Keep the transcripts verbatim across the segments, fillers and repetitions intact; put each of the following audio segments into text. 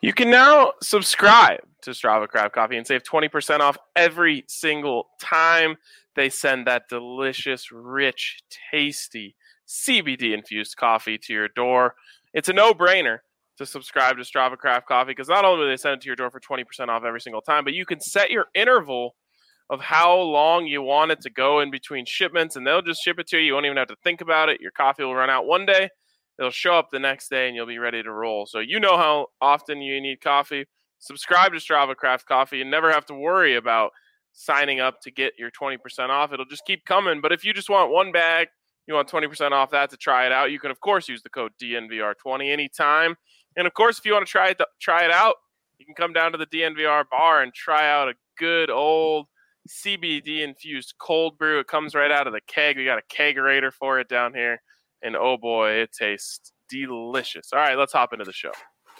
You can now subscribe to Strava Craft Coffee and save twenty percent off every single time they send that delicious, rich, tasty C B D-infused coffee to your door. It's a no-brainer to subscribe to Strava Craft Coffee because not only do they send it to your door for twenty percent off every single time, but you can set your interval of how long you want it to go in between shipments, and they'll just ship it to you. You won't even have to think about it. Your coffee will run out one day. It'll show up the next day, and you'll be ready to roll. So you know how often you need coffee. Subscribe to Strava Craft Coffee and never have to worry about signing up to get your twenty percent off. It'll just keep coming. But if you just want one bag, you want twenty percent off that to try it out, you can, of course, use the code D N V R twenty anytime. And, of course, if you want to try it, try it out, you can come down to the D N V R bar and try out a good old C B D-infused cold brew. It comes right out of the keg. We got a kegerator for it down here. And, oh, boy, it tastes delicious. All right, let's hop into the show.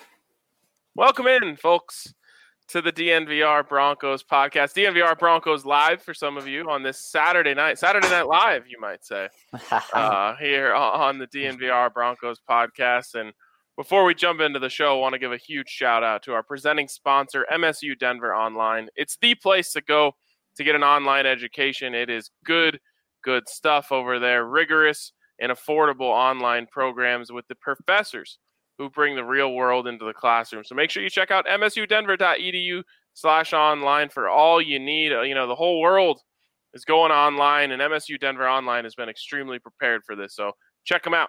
Welcome in, folks, to the D N V R Broncos podcast. D N V R Broncos live for some of you on this Saturday night. Saturday Night Live, you might say, uh, here on the D N V R Broncos podcast. And before we jump into the show, I want to give a huge shout-out to our presenting sponsor, M S U Denver Online. It's the place to go to get an online education. It is good, good stuff over there, rigorous and affordable online programs with the professors who bring the real world into the classroom. So make sure you check out msudenver.edu slash online for all you need. You know, the whole world is going online, and M S U Denver Online has been extremely prepared for this. So check them out.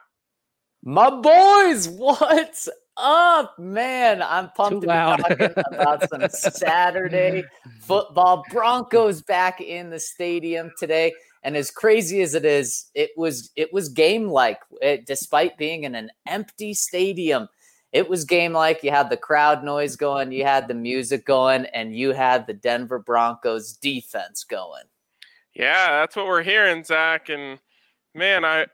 My boys, what's up, man? I'm pumped Too to be talking about some Saturday football. Broncos back in the stadium today. And as crazy as it is, it was it was game-like. It, despite being in an empty stadium, it was game-like. You had the crowd noise going, you had the music going, and you had the Denver Broncos defense going. Yeah, that's what we're hearing, Zach. And man, I,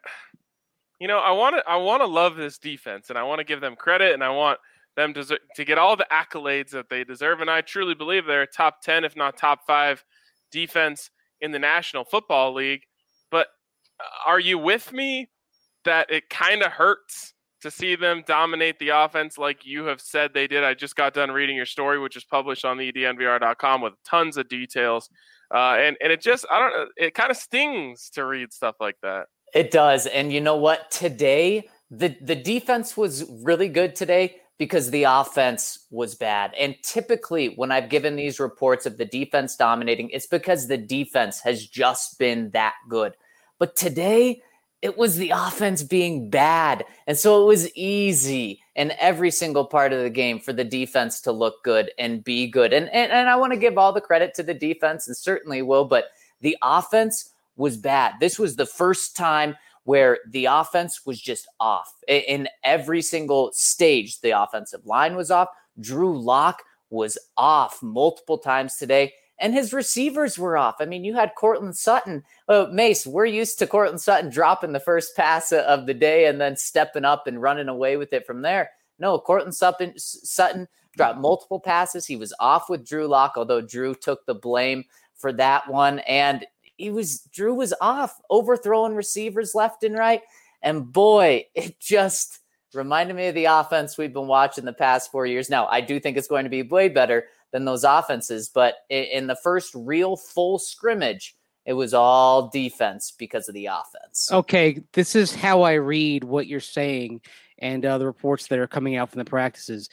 you know, I want to I want to love this defense, and I want to give them credit, and I want them to to get all the accolades that they deserve. And I truly believe they're a top ten, if not top five, defense in the National Football League. But are you with me that it kind of hurts to see them dominate the offense like you have said they did? I just got done reading your story, which is published on the D N V R dot com with tons of details. Uh, and, and it just, I don't know, it kind of stings to read stuff like that. It does. And you know what? Today, the, the defense was really good today because the offense was bad. And typically when I've given these reports of the defense dominating, it's because the defense has just been that good. But today it was the offense being bad. And so it was easy in every single part of the game for the defense to look good and be good. And, and, and I want to give all the credit to the defense, and certainly will, but the offense was bad. This was the first time where the offense was just off. In every single stage, the offensive line was off. Drew Lock was off multiple times today, and his receivers were off. I mean, you had Courtland Sutton. Oh, Mace, we're used to Courtland Sutton dropping the first pass of the day and then stepping up and running away with it from there. No, Courtland Sutton, Sutton dropped multiple passes. He was off with Drew Lock, although Drew took the blame for that one. And He was Drew was off, overthrowing receivers left and right. And boy, it just reminded me of the offense we've been watching the past four years. Now, I do think it's going to be way better than those offenses, but in the first real full scrimmage, it was all defense because of the offense. Okay, this is how I read what you're saying and uh, the reports that are coming out from the practices.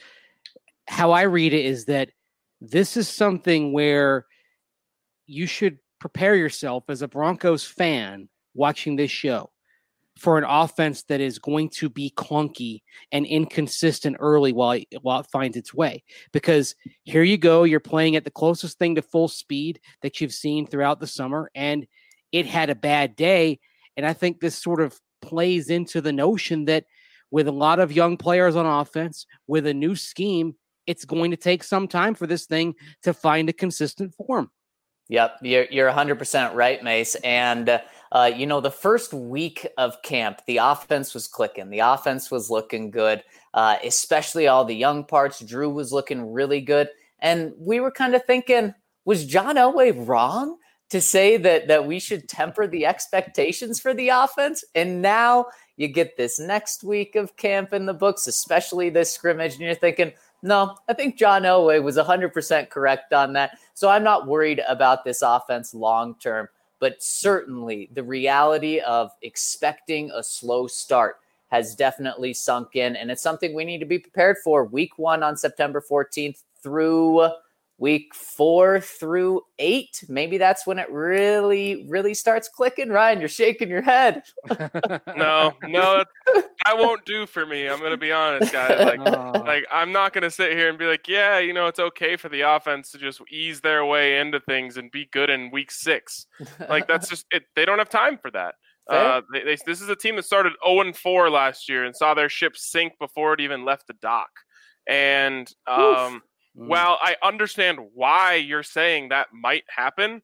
How I read it is that this is something where you should prepare yourself as a Broncos fan watching this show for an offense that is going to be clunky and inconsistent early while it, while it finds its way. Because here you go, you're playing at the closest thing to full speed that you've seen throughout the summer, and it had a bad day. And I think this sort of plays into the notion that with a lot of young players on offense, with a new scheme, it's going to take some time for this thing to find a consistent form. Yep, you're you're one hundred percent right, Mace. And, uh, you know, the first week of camp, the offense was clicking. The offense was looking good, uh, especially all the young parts. Drew was looking really good. And we were kind of thinking, was John Elway wrong to say that that we should temper the expectations for the offense? And now you get this next week of camp in the books, especially this scrimmage, and you're thinking, No, I think John Elway was one hundred percent correct on that. So I'm not worried about this offense long term, but certainly the reality of expecting a slow start has definitely sunk in, and it's something we need to be prepared for. Week one on September fourteenth through week four through eight. Maybe that's when it really, really starts clicking. Ryan, you're shaking your head. no, no, that won't do for me. I'm going to be honest, guys. Like, oh. like I'm not going to sit here and be like, yeah, you know, it's okay for the offense to just ease their way into things and be good in week six. Like, that's just it. They don't have time for that. Uh, they, they, this is a team that started oh and four last year and saw their ship sink before it even left the dock. And um, while I understand why you're saying that might happen,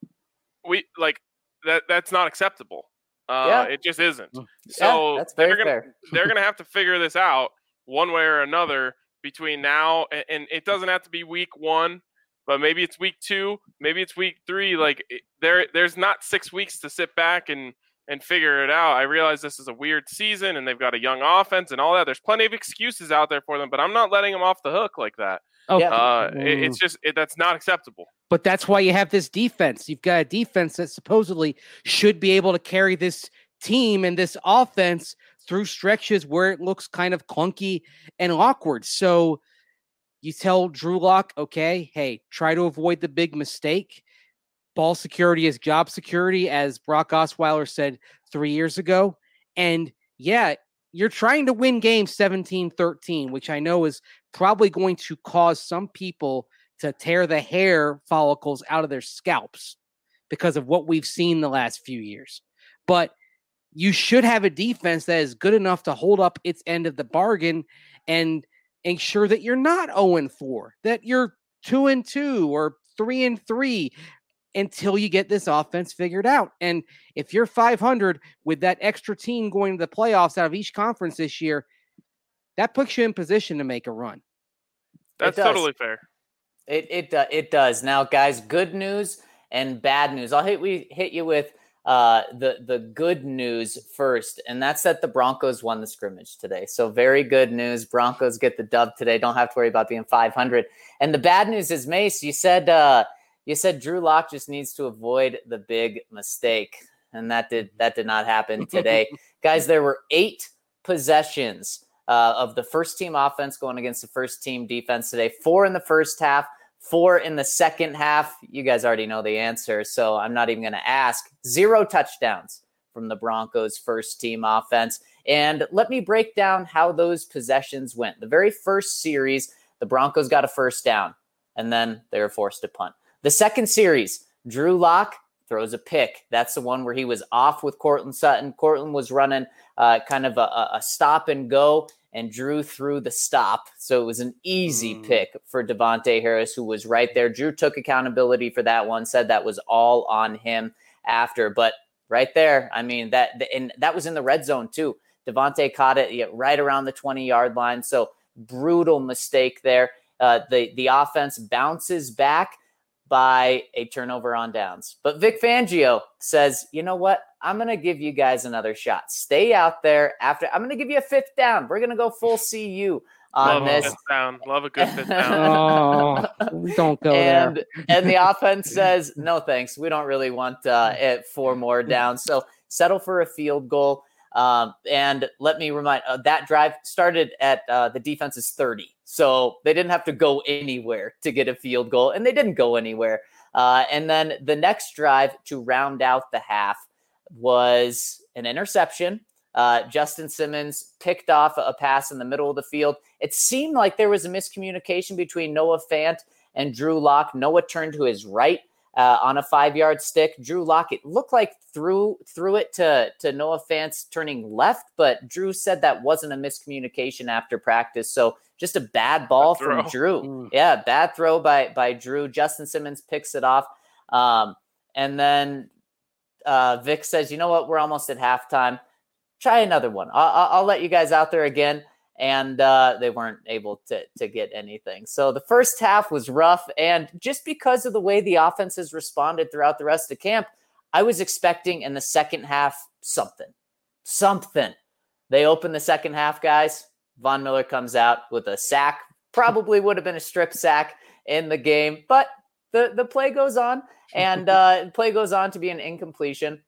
we like that. That's not acceptable. Uh, yeah. It just isn't. So yeah, that's very they're gonna fair. they're gonna have to figure this out one way or another between now and, and it doesn't have to be week one, but maybe it's week two, maybe it's week three. Like it, there, there's not six weeks to sit back and. and figure it out. I realize this is a weird season and they've got a young offense and all that. There's plenty of excuses out there for them, but I'm not letting them off the hook like that. Oh, uh, it, it's just, it, that's not acceptable. But that's why you have this defense. You've got a defense that supposedly should be able to carry this team and this offense through stretches where it looks kind of clunky and awkward. So you tell Drew Lock, okay, hey, try to avoid the big mistake. Ball security is job security, as Brock Osweiler said three years ago. And yeah, you're trying to win games seventeen thirteen, which I know is probably going to cause some people to tear the hair follicles out of their scalps because of what we've seen the last few years. But you should have a defense that is good enough to hold up its end of the bargain and ensure that you're not oh and four, that you're two and two or three and three. Until you get this offense figured out. And if you're five hundred with that extra team going to the playoffs out of each conference this year, that puts you in position to make a run. That's totally fair. It it uh, it does. Now, guys, good news and bad news. I'll hit we hit you with uh, the the good news first, and that's that the Broncos won the scrimmage today. So very good news. Broncos get the dub today. Don't have to worry about being five hundred. And the bad news is, Mace, you said. Uh, You said Drew Lock just needs to avoid the big mistake, and that did that did not happen today. Guys, there were eight possessions uh, of the first team offense going against the first team defense today. Four in the first half, four in the second half. You guys already know the answer, so I'm not even going to ask. Zero touchdowns from the Broncos' first team offense. And let me break down how those possessions went. The very first series, the Broncos got a first down, and then they were forced to punt. The second series, Drew Lock throws a pick. That's the one where he was off with Courtland Sutton. Courtland was running uh, kind of a, a stop and go, and Drew threw the stop. So it was an easy mm. pick for Devontae Harris, who was right there. Drew took accountability for that one, said that was all on him after. But right there, I mean, that and that was in the red zone too. Devontae caught it yeah, right around the twenty-yard line. So brutal mistake there. Uh, the, the offense bounces back by a turnover on downs. But Vic Fangio says, you know what? I'm going to give you guys another shot. Stay out there after. I'm going to give you a fifth down. We're going to go full C U on Love this. A fifth down. Love a good fifth down. Oh, don't go and, there. And the offense says, no, thanks. We don't really want uh, it four more downs. So settle for a field goal. Um, and let me remind uh, that drive started at uh, the defense's thirty. So they didn't have to go anywhere to get a field goal, and they didn't go anywhere. Uh, and then the next drive to round out the half was an interception. Uh, Justin Simmons picked off a pass in the middle of the field. It seemed like there was a miscommunication between Noah Fant and Drew Lock. Noah turned to his right uh, on a five-yard stick. Drew Lock, it looked like threw threw it to, to Noah Fant's turning left, but Drew said that wasn't a miscommunication after practice. So just a bad ball from Drew. Mm. Yeah, bad throw by by Drew. Justin Simmons picks it off. Um, and then uh, Vic says, you know what? We're almost at halftime. Try another one. I'll, I'll let you guys out there again. And uh, they weren't able to, to get anything. So the first half was rough. And just because of the way the offense has responded throughout the rest of camp, I was expecting in the second half something. Something. They open the second half, guys. Von Miller comes out with a sack, probably would have been a strip sack in the game, but the, the play goes on, and uh, play goes on to be an incompletion.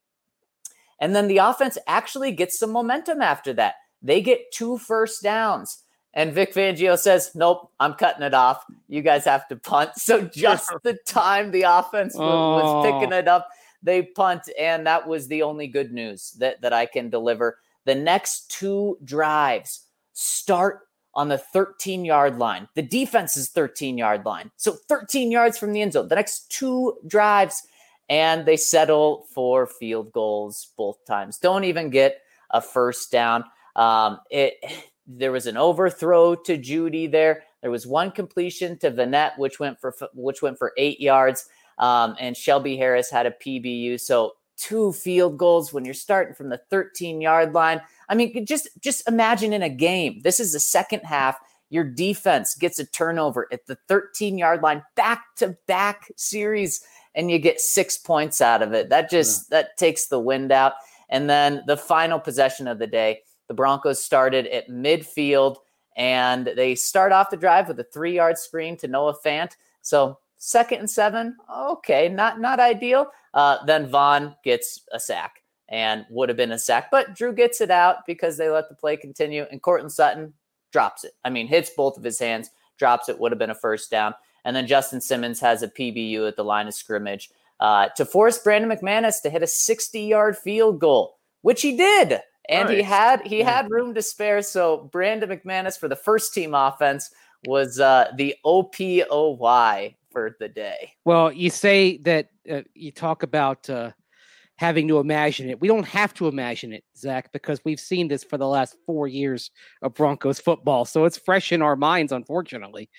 And then the offense actually gets some momentum after that. They get two first downs. And Vic Fangio says, nope, I'm cutting it off. You guys have to punt. So just the time the offense was, was Oh. picking it up, they punt. And that was the only good news that, that I can deliver. The next two drives start on the thirteen-yard line. The defense's thirteen-yard line. So thirteen yards from the end zone. The next two drives, and they settle for field goals both times. Don't even get a first down. Um, it... There was an overthrow to Judy there. There was one completion to Vanette, which went for which went for eight yards. Um, and Shelby Harris had a P B U. So two field goals when you're starting from the thirteen-yard line. I mean, just, just imagine in a game. This is the second half. Your defense gets a turnover at the thirteen-yard line, back-to-back series, and you get six points out of it. That just yeah. that takes the wind out. And then the final possession of the day, the Broncos started at midfield, and they start off the drive with a three-yard screen to Noah Fant. So second and seven, okay, not not ideal. Uh, then Vaughn gets a sack, and would have been a sack. But Drew gets it out because they let the play continue, and Courtland Sutton drops it. I mean, hits both of his hands, drops it, would have been a first down. And then Justin Simmons has a P B U at the line of scrimmage uh, to force Brandon McManus to hit a sixty-yard field goal, which he did. And nice. he had he yeah. had room to spare. So Brandon McManus for the first team offense was uh, the O P O Y for the day. Well, you say that uh, you talk about uh, having to imagine it. We don't have to imagine it, Zach, because we've seen this for the last four years of Broncos football. So it's fresh in our minds, unfortunately.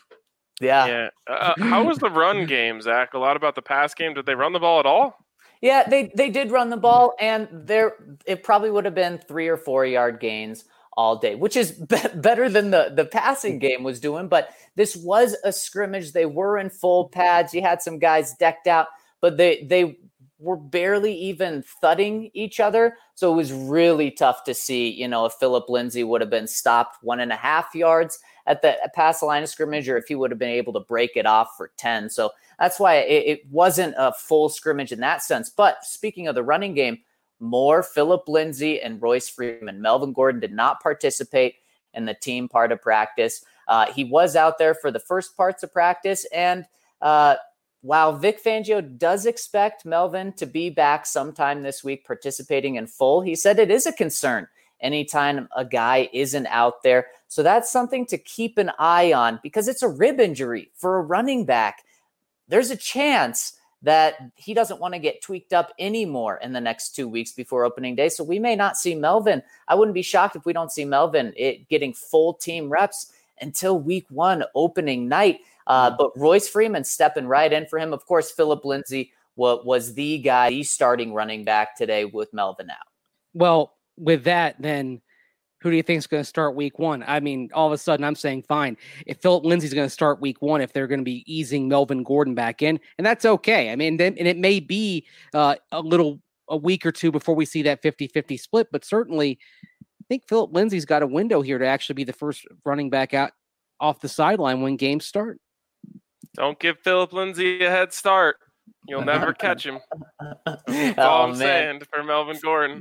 Yeah. Yeah. Uh, how was the run game, Zach? A lot about the pass game. Did they run the ball at all? Yeah, they, they did run the ball, and there it probably would have been three or four yard gains all day, which is be- better than the, the passing game was doing. But this was a scrimmage. They were in full pads. You had some guys decked out, but they they were barely even thudding each other. So it was really tough to see, you know, if Philip Lindsay would have been stopped one and a half yards at the past the line of scrimmage, or if he would have been able to break it off for ten. So that's why it, it wasn't a full scrimmage in that sense. But speaking of the running game, more Philip Lindsay and Royce Freeman. Melvin Gordon did not participate in the team part of practice. Uh, he was out there for the first parts of practice. And uh, while Vic Fangio does expect Melvin to be back sometime this week participating in full, he said it is a concern anytime a guy isn't out there. So that's something to keep an eye on because it's a rib injury for a running back. There's a chance that he doesn't want to get tweaked up anymore in the next two weeks before opening day. So we may not see Melvin. I wouldn't be shocked if we don't see Melvin it, getting full team reps until week one opening night. Uh, but Royce Freeman stepping right in for him. Of course, Philip Lindsay wa- was the guy, the starting running back today with Melvin out. Well, with that, then who do you think is going to start week one? I mean, all of a sudden I'm saying, fine, if Philip Lindsay's going to start week one, if they're going to be easing Melvin Gordon back in, and that's okay. I mean, then, and it may be uh, a little, a week or two before we see that fifty-fifty split, but certainly I think Philip Lindsay's got a window here to actually be the first running back out off the sideline when games start. Don't give Philip Lindsay a head start. You'll never catch him. That's all oh, I'm man. saying for Melvin Gordon.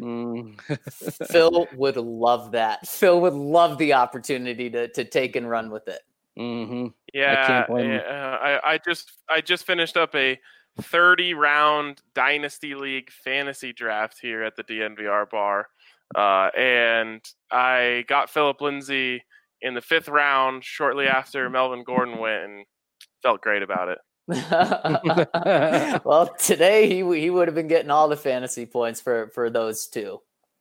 Mm. Phil would love that. Phil would love the opportunity to to take and run with it. Mm-hmm. Yeah, I, can't blame yeah I, I just I just finished up a thirty round Dynasty League fantasy draft here at the D N V R bar, uh, and I got Philip Lindsay in the fifth round shortly after Melvin Gordon went, and felt great about it. Well, today he he would have been getting all the fantasy points for, for those two.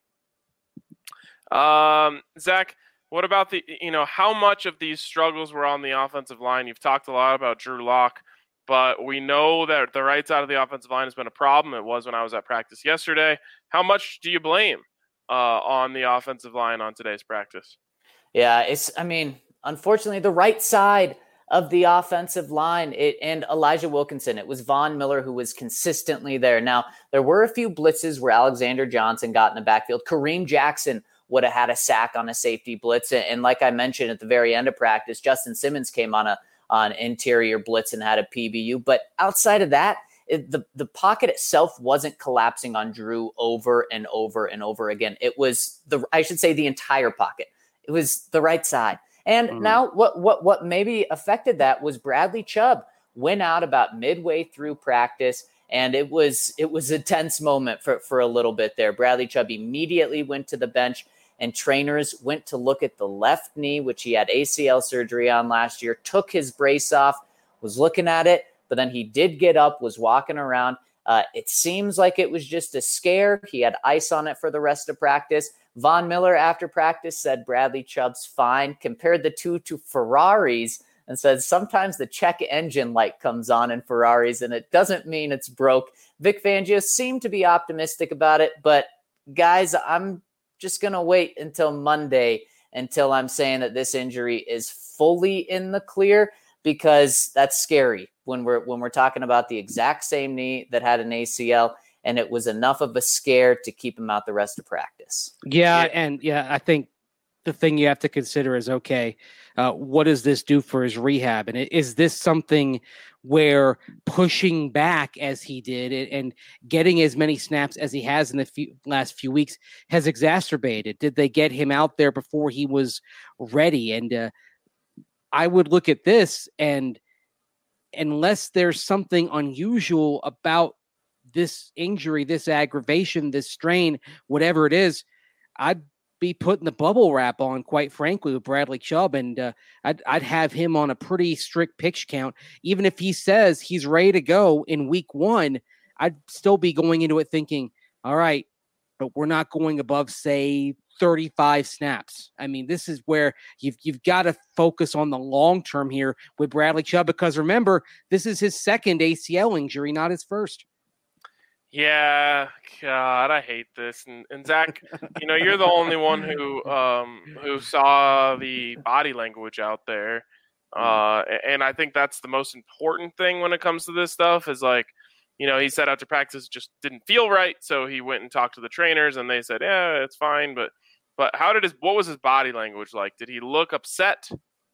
Um, Zach, what about the, you know, how much of these struggles were on the offensive line? You've talked a lot about Drew Lock, but we know that the right side of the offensive line has been a problem. It was when I was at practice yesterday. How much do you blame uh, on the offensive line on today's practice? Yeah, it's, I mean, unfortunately, the right side of the offensive line it, and Elijah Wilkinson. It was Von Miller who was consistently there. Now, there were a few blitzes where Alexander Johnson got in the backfield. Kareem Jackson would have had a sack on a safety blitz. And like I mentioned at the very end of practice, Justin Simmons came on a on interior blitz and had a P B U. But outside of that, it, the, the pocket itself wasn't collapsing on Drew over and over and over again. It was the, I should say the entire pocket. It was the right side. And mm-hmm. now what, what, what maybe affected that was Bradley Chubb went out about midway through practice. And it was, it was a tense moment for, for a little bit there. Bradley Chubb immediately went to the bench, and trainers went to look at the left knee, which he had A C L surgery on last year, took his brace off, was looking at it, but then he did get up, was walking around. Uh, it seems like it was just a scare. He had ice on it for the rest of practice. Von Miller, after practice, said Bradley Chubb's fine, compared the two to Ferraris, and said sometimes the check engine light comes on in Ferraris, and it doesn't mean it's broke. Vic Fangio seemed to be optimistic about it, but guys, I'm just going to wait until Monday until I'm saying that this injury is fully in the clear, because that's scary when we're when we're talking about the exact same knee that had an A C L, and it was enough of a scare to keep him out the rest of practice. Yeah, yeah. and yeah, I think the thing you have to consider is, okay, uh, what does this do for his rehab? And is this something where pushing back as he did and getting as many snaps as he has in the few, last few weeks has exacerbated? Did they get him out there before he was ready? And uh, I would look at this, and unless there's something unusual about this injury, this aggravation, this strain, whatever it is, I'd be putting the bubble wrap on, quite frankly, with Bradley Chubb, and uh, I'd, I'd have him on a pretty strict pitch count. Even if he says he's ready to go in week one, I'd still be going into it thinking, all right, but we're not going above, say, thirty-five snaps. I mean, this is where you've you've got to focus on the long term here with Bradley Chubb, because remember, this is his second A C L injury, not his first. Yeah, God, I hate this. And, and Zach, you know, you're the only one who um, who saw the body language out there. Uh, and I think that's the most important thing when it comes to this stuff is, like, you know, he said after practice it just didn't feel right. So he went and talked to the trainers, and they said, yeah, it's fine. But but how did his, what was his body language like? Did he look upset?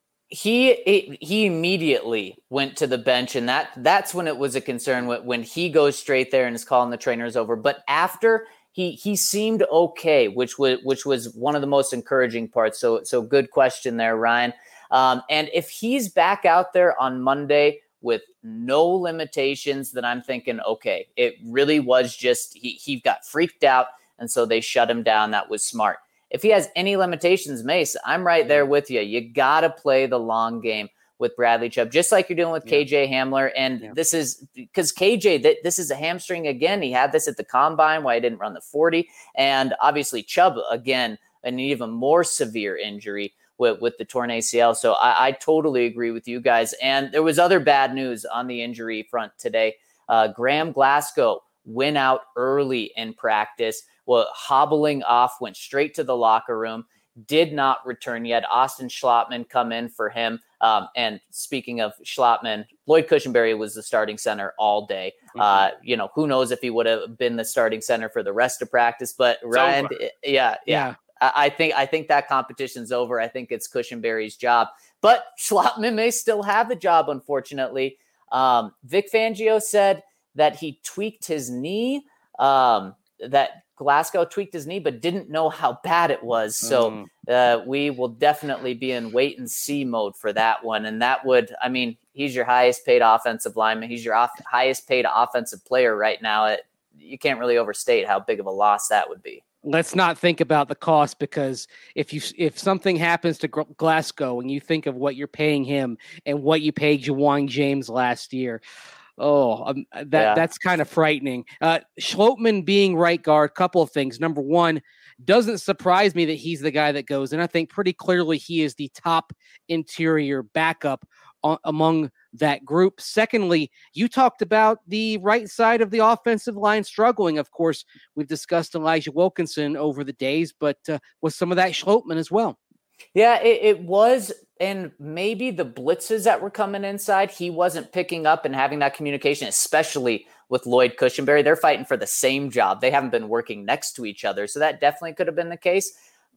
He he immediately went to the bench, and that that's when it was a concern when, when he goes straight there and is calling the trainers over. But after, he he seemed okay, which was which was one of the most encouraging parts. So so good question there, Ryan. Um, and if he's back out there on Monday with no limitations, then I'm thinking, okay, it really was just he he got freaked out, and so they shut him down. That was smart. If he has any limitations, Mace, I'm right there with you. You got to play the long game with Bradley Chubb, just like you're doing with yeah. K J Hamler. And yeah. this is because K J, th- this is a hamstring again. He had this at the combine, why he didn't run the forty. And obviously Chubb, again, an even more severe injury with, with the torn A C L. So I, I totally agree with you guys. And there was other bad news on the injury front today. Uh, Graham Glasgow went out early in practice. Well, hobbling off, went straight to the locker room, did not return yet. Austin Schlottman come in for him. Um, and speaking of Schlottman, Lloyd Cushenberry was the starting center all day. Mm-hmm. Uh, you know, who knows if he would have been the starting center for the rest of practice, but it's Ryan, over. yeah, yeah. yeah. I, I think, I think that competition's over. I think it's Cushenberry's job, but Schlottman may still have the job, unfortunately. Um, Vic Fangio said that he tweaked his knee, um, that Glasgow tweaked his knee, but didn't know how bad it was. So uh, we will definitely be in wait and see mode for that one. And that would, I mean, he's your highest paid offensive lineman. He's your off- highest paid offensive player right now. It, you can't really overstate how big of a loss that would be. Let's not think about the cost, because if you if something happens to Glasgow and you think of what you're paying him and what you paid Ja'Wuan James last year, Oh, um, that yeah. that's kind of frightening. Uh, Schlottman being right guard, couple of things. Number one, doesn't surprise me that he's the guy that goes, and I think pretty clearly he is the top interior backup on, among that group. Secondly, you talked about the right side of the offensive line struggling. Of course, we've discussed Elijah Wilkinson over the days, but uh, was some of that Schlottman as well? Yeah, it, it was. And maybe the blitzes that were coming inside, he wasn't picking up and having that communication, especially with Lloyd Cushenberry. They're fighting for the same job. They haven't been working next to each other. So that definitely could have been the case.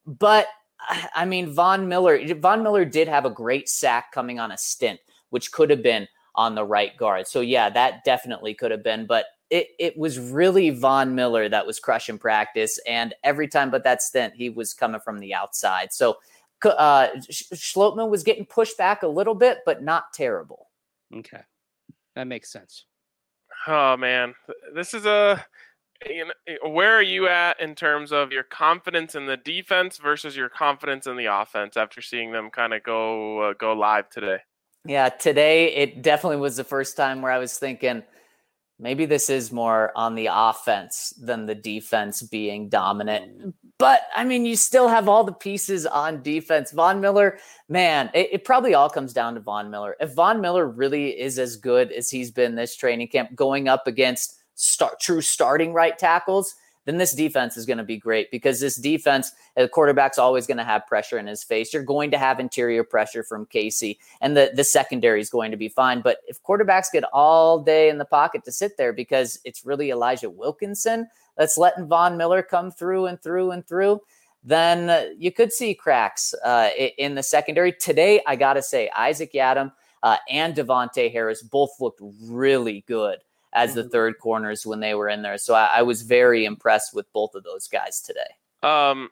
but I mean, Von Miller, Von Miller did have a great sack coming on a stint, which could have been on the right guard. So yeah, that definitely could have been, but it, it was really Von Miller that was crushing practice. And every time but that stint, he was coming from the outside. So uh, Schlottmann was getting pushed back a little bit, but not terrible. Okay. That makes sense. Oh man, this is a, you know, where are you at in terms of your confidence in the defense versus your confidence in the offense after seeing them kind of go, uh, go live today? Yeah, today it definitely was the first time where I was thinking maybe this is more on the offense than the defense being dominant. But, I mean, you still have all the pieces on defense. Von Miller, man, it, it probably all comes down to Von Miller. If Von Miller really is as good as he's been this training camp going up against start, true starting right tackles, then this defense is going to be great because this defense, the quarterback's always going to have pressure in his face. You're going to have interior pressure from Casey, and the, the secondary is going to be fine. But if quarterbacks get all day in the pocket to sit there because it's really Elijah Wilkinson that's letting Von Miller come through and through and through, then uh, you could see cracks uh, in the secondary. Today, I got to say, Isaac Yiadom uh, and Devontae Harris both looked really good as the third corners when they were in there. So I, I was very impressed with both of those guys today. Um,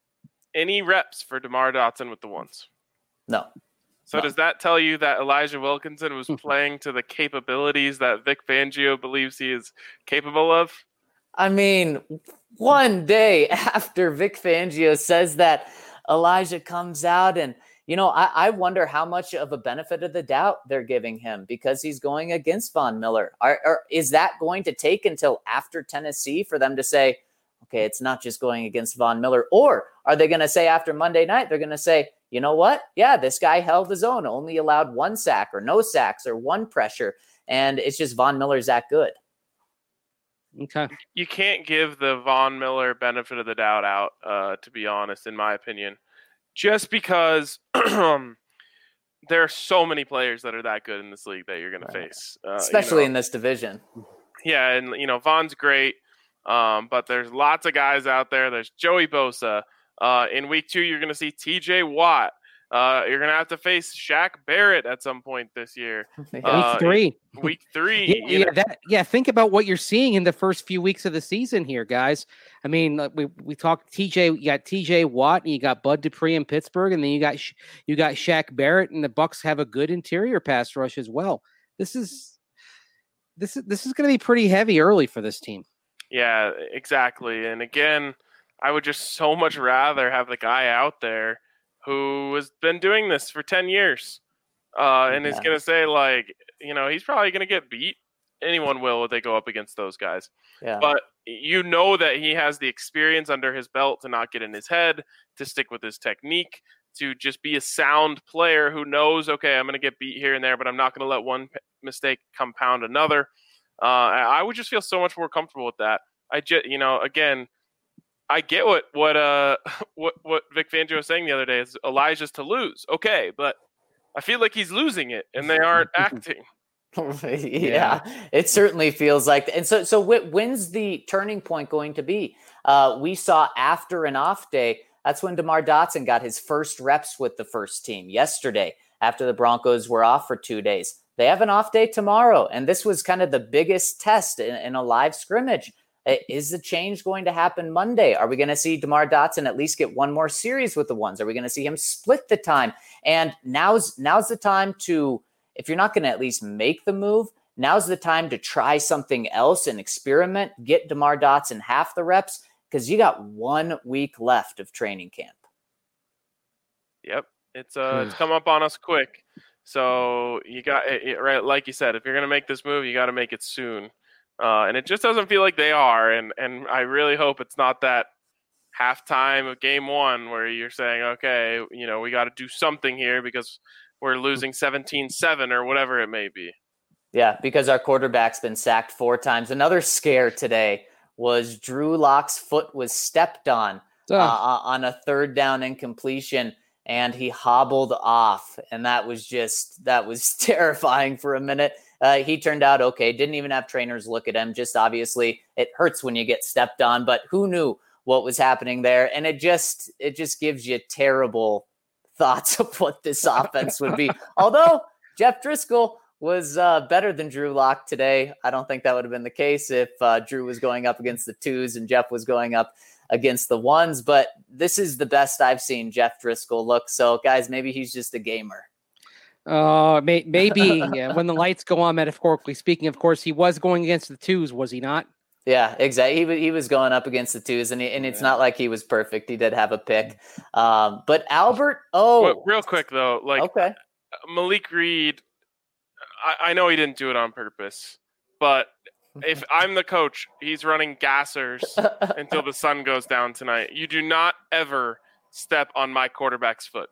any reps for DeMar Dotson with the ones? No. So no. Does that tell you that Elijah Wilkinson was playing to the capabilities that Vic Fangio believes he is capable of? I mean, one day after Vic Fangio says that, Elijah comes out and, you know, I, I wonder how much of a benefit of the doubt they're giving him because he's going against Von Miller. Are, are, is that going to take until after Tennessee for them to say, okay, it's not just going against Von Miller? Or are they going to say after Monday night, they're going to say, you know what? Yeah, this guy held his own, only allowed one sack or no sacks or one pressure. And it's just Von Miller's that good. Okay. You can't give the Von Miller benefit of the doubt out, uh, to be honest, in my opinion. Just because there are so many players that are that good in this league that you're going Right. to face. Uh, Especially you know, in this division. Yeah, and, you know, Von's great, um, but there's lots of guys out there. There's Joey Bosa. Uh, in week two, you're going to see T J Watt. Uh, you're going to have to face Shaq Barrett at some point this year. Uh, week three. Week three. Yeah, yeah, that, yeah, think about what you're seeing in the first few weeks of the season here, guys. I mean, we we talked T J. You got T J Watt, and you got Bud Dupree in Pittsburgh, and then you got you got Shaq Barrett, and the Bucks have a good interior pass rush as well. This is this is this is going to be pretty heavy early for this team. Yeah, exactly. And again, I would just so much rather have the guy out there who has been doing this for ten years uh, and yeah. is going to say, like, you know, he's probably going to get beat. Anyone will if they go up against those guys. Yeah. But you know that he has the experience under his belt to not get in his head, to stick with his technique, to just be a sound player who knows, okay, I'm going to get beat here and there, but I'm not going to let one p- mistake compound another. Uh, I would just feel so much more comfortable with that. I just, you know, again, I get what what uh what what Vic Fangio was saying the other day is Elijah's to lose. Okay, but I feel like he's losing it, and they aren't acting. yeah, yeah, it certainly feels like. And so, so when's the turning point going to be? Uh, we saw after an off day. That's when DeMar Dotson got his first reps with the first team yesterday. After the Broncos were off for two days, they have an off day tomorrow, and this was kind of the biggest test in, in a live scrimmage. Is the change going to happen Monday? Are we going to see DeMar Dotson at least get one more series with the ones? Are we going to see him split the time? And now's now's the time to, if you're not going to at least make the move, now's the time to try something else and experiment. Get DeMar Dotson half the reps because you got one week left of training camp. Yep, it's uh, it's come up on us quick. So you got it, right, like you said, if you're going to make this move, you got to make it soon. Uh, and it just doesn't feel like they are. And, and I really hope it's not that halftime of game one where you're saying, okay, you know, we got to do something here because we're losing seventeen seven or whatever it may be. Yeah, because our quarterback's been sacked four times. Another scare today was Drew Lock's foot was stepped on oh. uh, on a third down incompletion, and he hobbled off. And that was just, that was terrifying for a minute. Uh, he turned out okay. Didn't even have trainers look at him. Just obviously it hurts when you get stepped on, but who knew what was happening there. And it just, it just gives you terrible thoughts of what this offense would be. Although Jeff Driscoll was uh, better than Drew Lock today. I don't think that would have been the case if uh, Drew was going up against the twos and Jeff was going up against the ones. But this is the best I've seen Jeff Driscoll look. So, guys, maybe he's just a gamer. Uh, may, maybe yeah, when the lights go on, metaphorically speaking. Of course, he was going against the twos, was he not? Yeah, exactly. He, he was going up against the twos, and he, and it's not like he was perfect. He did have a pick. Um, but Albert, oh. Well, real quick, though, like okay. Malik Reed, I, I know he didn't do it on purpose, but if I'm the coach, he's running gassers until the sun goes down tonight. You do not ever step on my quarterback's foot.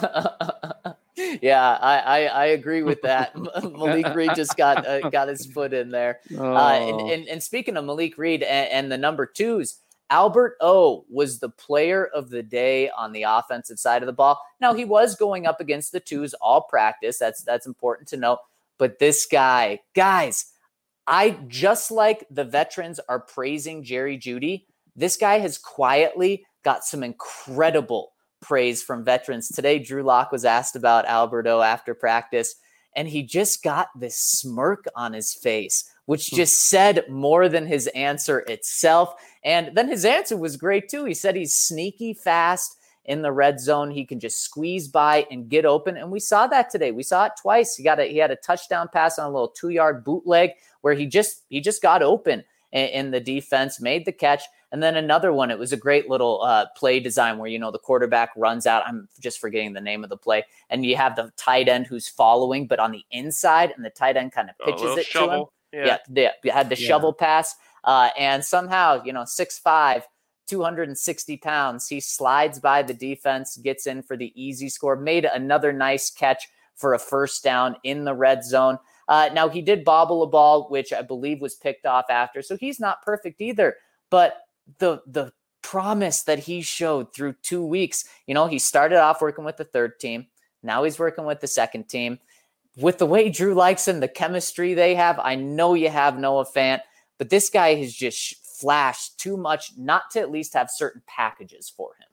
Yeah, I, I, I agree with that. Malik Reed just got uh, got his foot in there. Oh. Uh, and, and, and speaking of Malik Reed and, and the number twos, Albert O was the player of the day on the offensive side of the ball. Now, he was going up against the twos all practice. That's that's important to note. But this guy, guys, I just like the veterans are praising Jerry Jeudy. This guy has quietly got some incredible praise from veterans. Today, Drew Lock was asked about Alberto after practice, and he just got this smirk on his face, which just said more than his answer itself. And then his answer was great, too. He said he's sneaky fast in the red zone. He can just squeeze by and get open. And we saw that today. We saw it twice. He got a, he had a touchdown pass on a little two-yard bootleg where he just he just got open in, in the defense, made the catch. And then another one, it was a great little uh, play design where, you know, the quarterback runs out. I'm just forgetting the name of the play. And you have the tight end who's following, but on the inside, and the tight end kind of pitches oh, it shovel. to him. Yeah. yeah, yeah. You had the Yeah. shovel pass. Uh, and somehow, you know, six five, two hundred sixty pounds, he slides by the defense, gets in for the easy score, made another nice catch for a first down in the red zone. Uh, now, he did bobble a ball, which I believe was picked off after. So he's not perfect either. But the the promise that he showed through two weeks, you know, he started off working with the third team. Now he's working with the second team. With the way Drew likes him, the chemistry they have, I know you have Noah Fant, but this guy has just flashed too much not to at least have certain packages for him.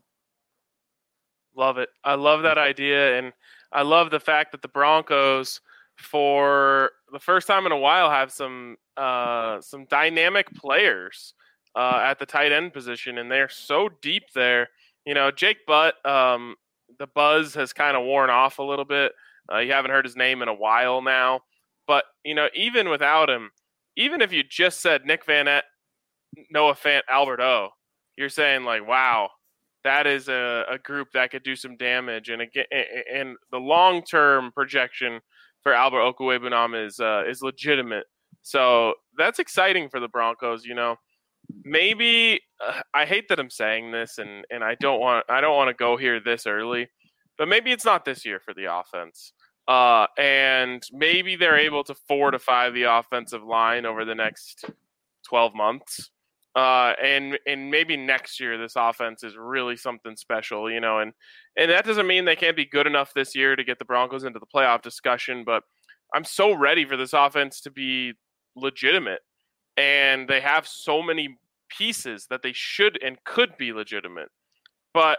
Love it. I love that idea, and I love the fact that the Broncos, for the first time in a while, have some uh, some dynamic players uh, at the tight end position, and they're so deep there. You know, Jake Butt, um, the buzz has kind of worn off a little bit. Uh, you haven't heard his name in a while now. But, you know, even without him, even if you just said Nick Vannett, Noah Fant, Albert O, you're saying, like, wow, that is a, a group that could do some damage. And again, and the long-term projection for Albert Okwuegbunam is uh, is legitimate. So that's exciting for the Broncos. You know, maybe uh, I hate that I'm saying this, and, and I don't want I don't want to go here this early, but maybe it's not this year for the offense. Uh, and maybe they're able to fortify the offensive line over the next twelve months. Uh, and and maybe next year this offense is really something special, you know, and, and that doesn't mean they can't be good enough this year to get the Broncos into the playoff discussion, but I'm so ready for this offense to be legitimate, and they have so many pieces that they should and could be legitimate, but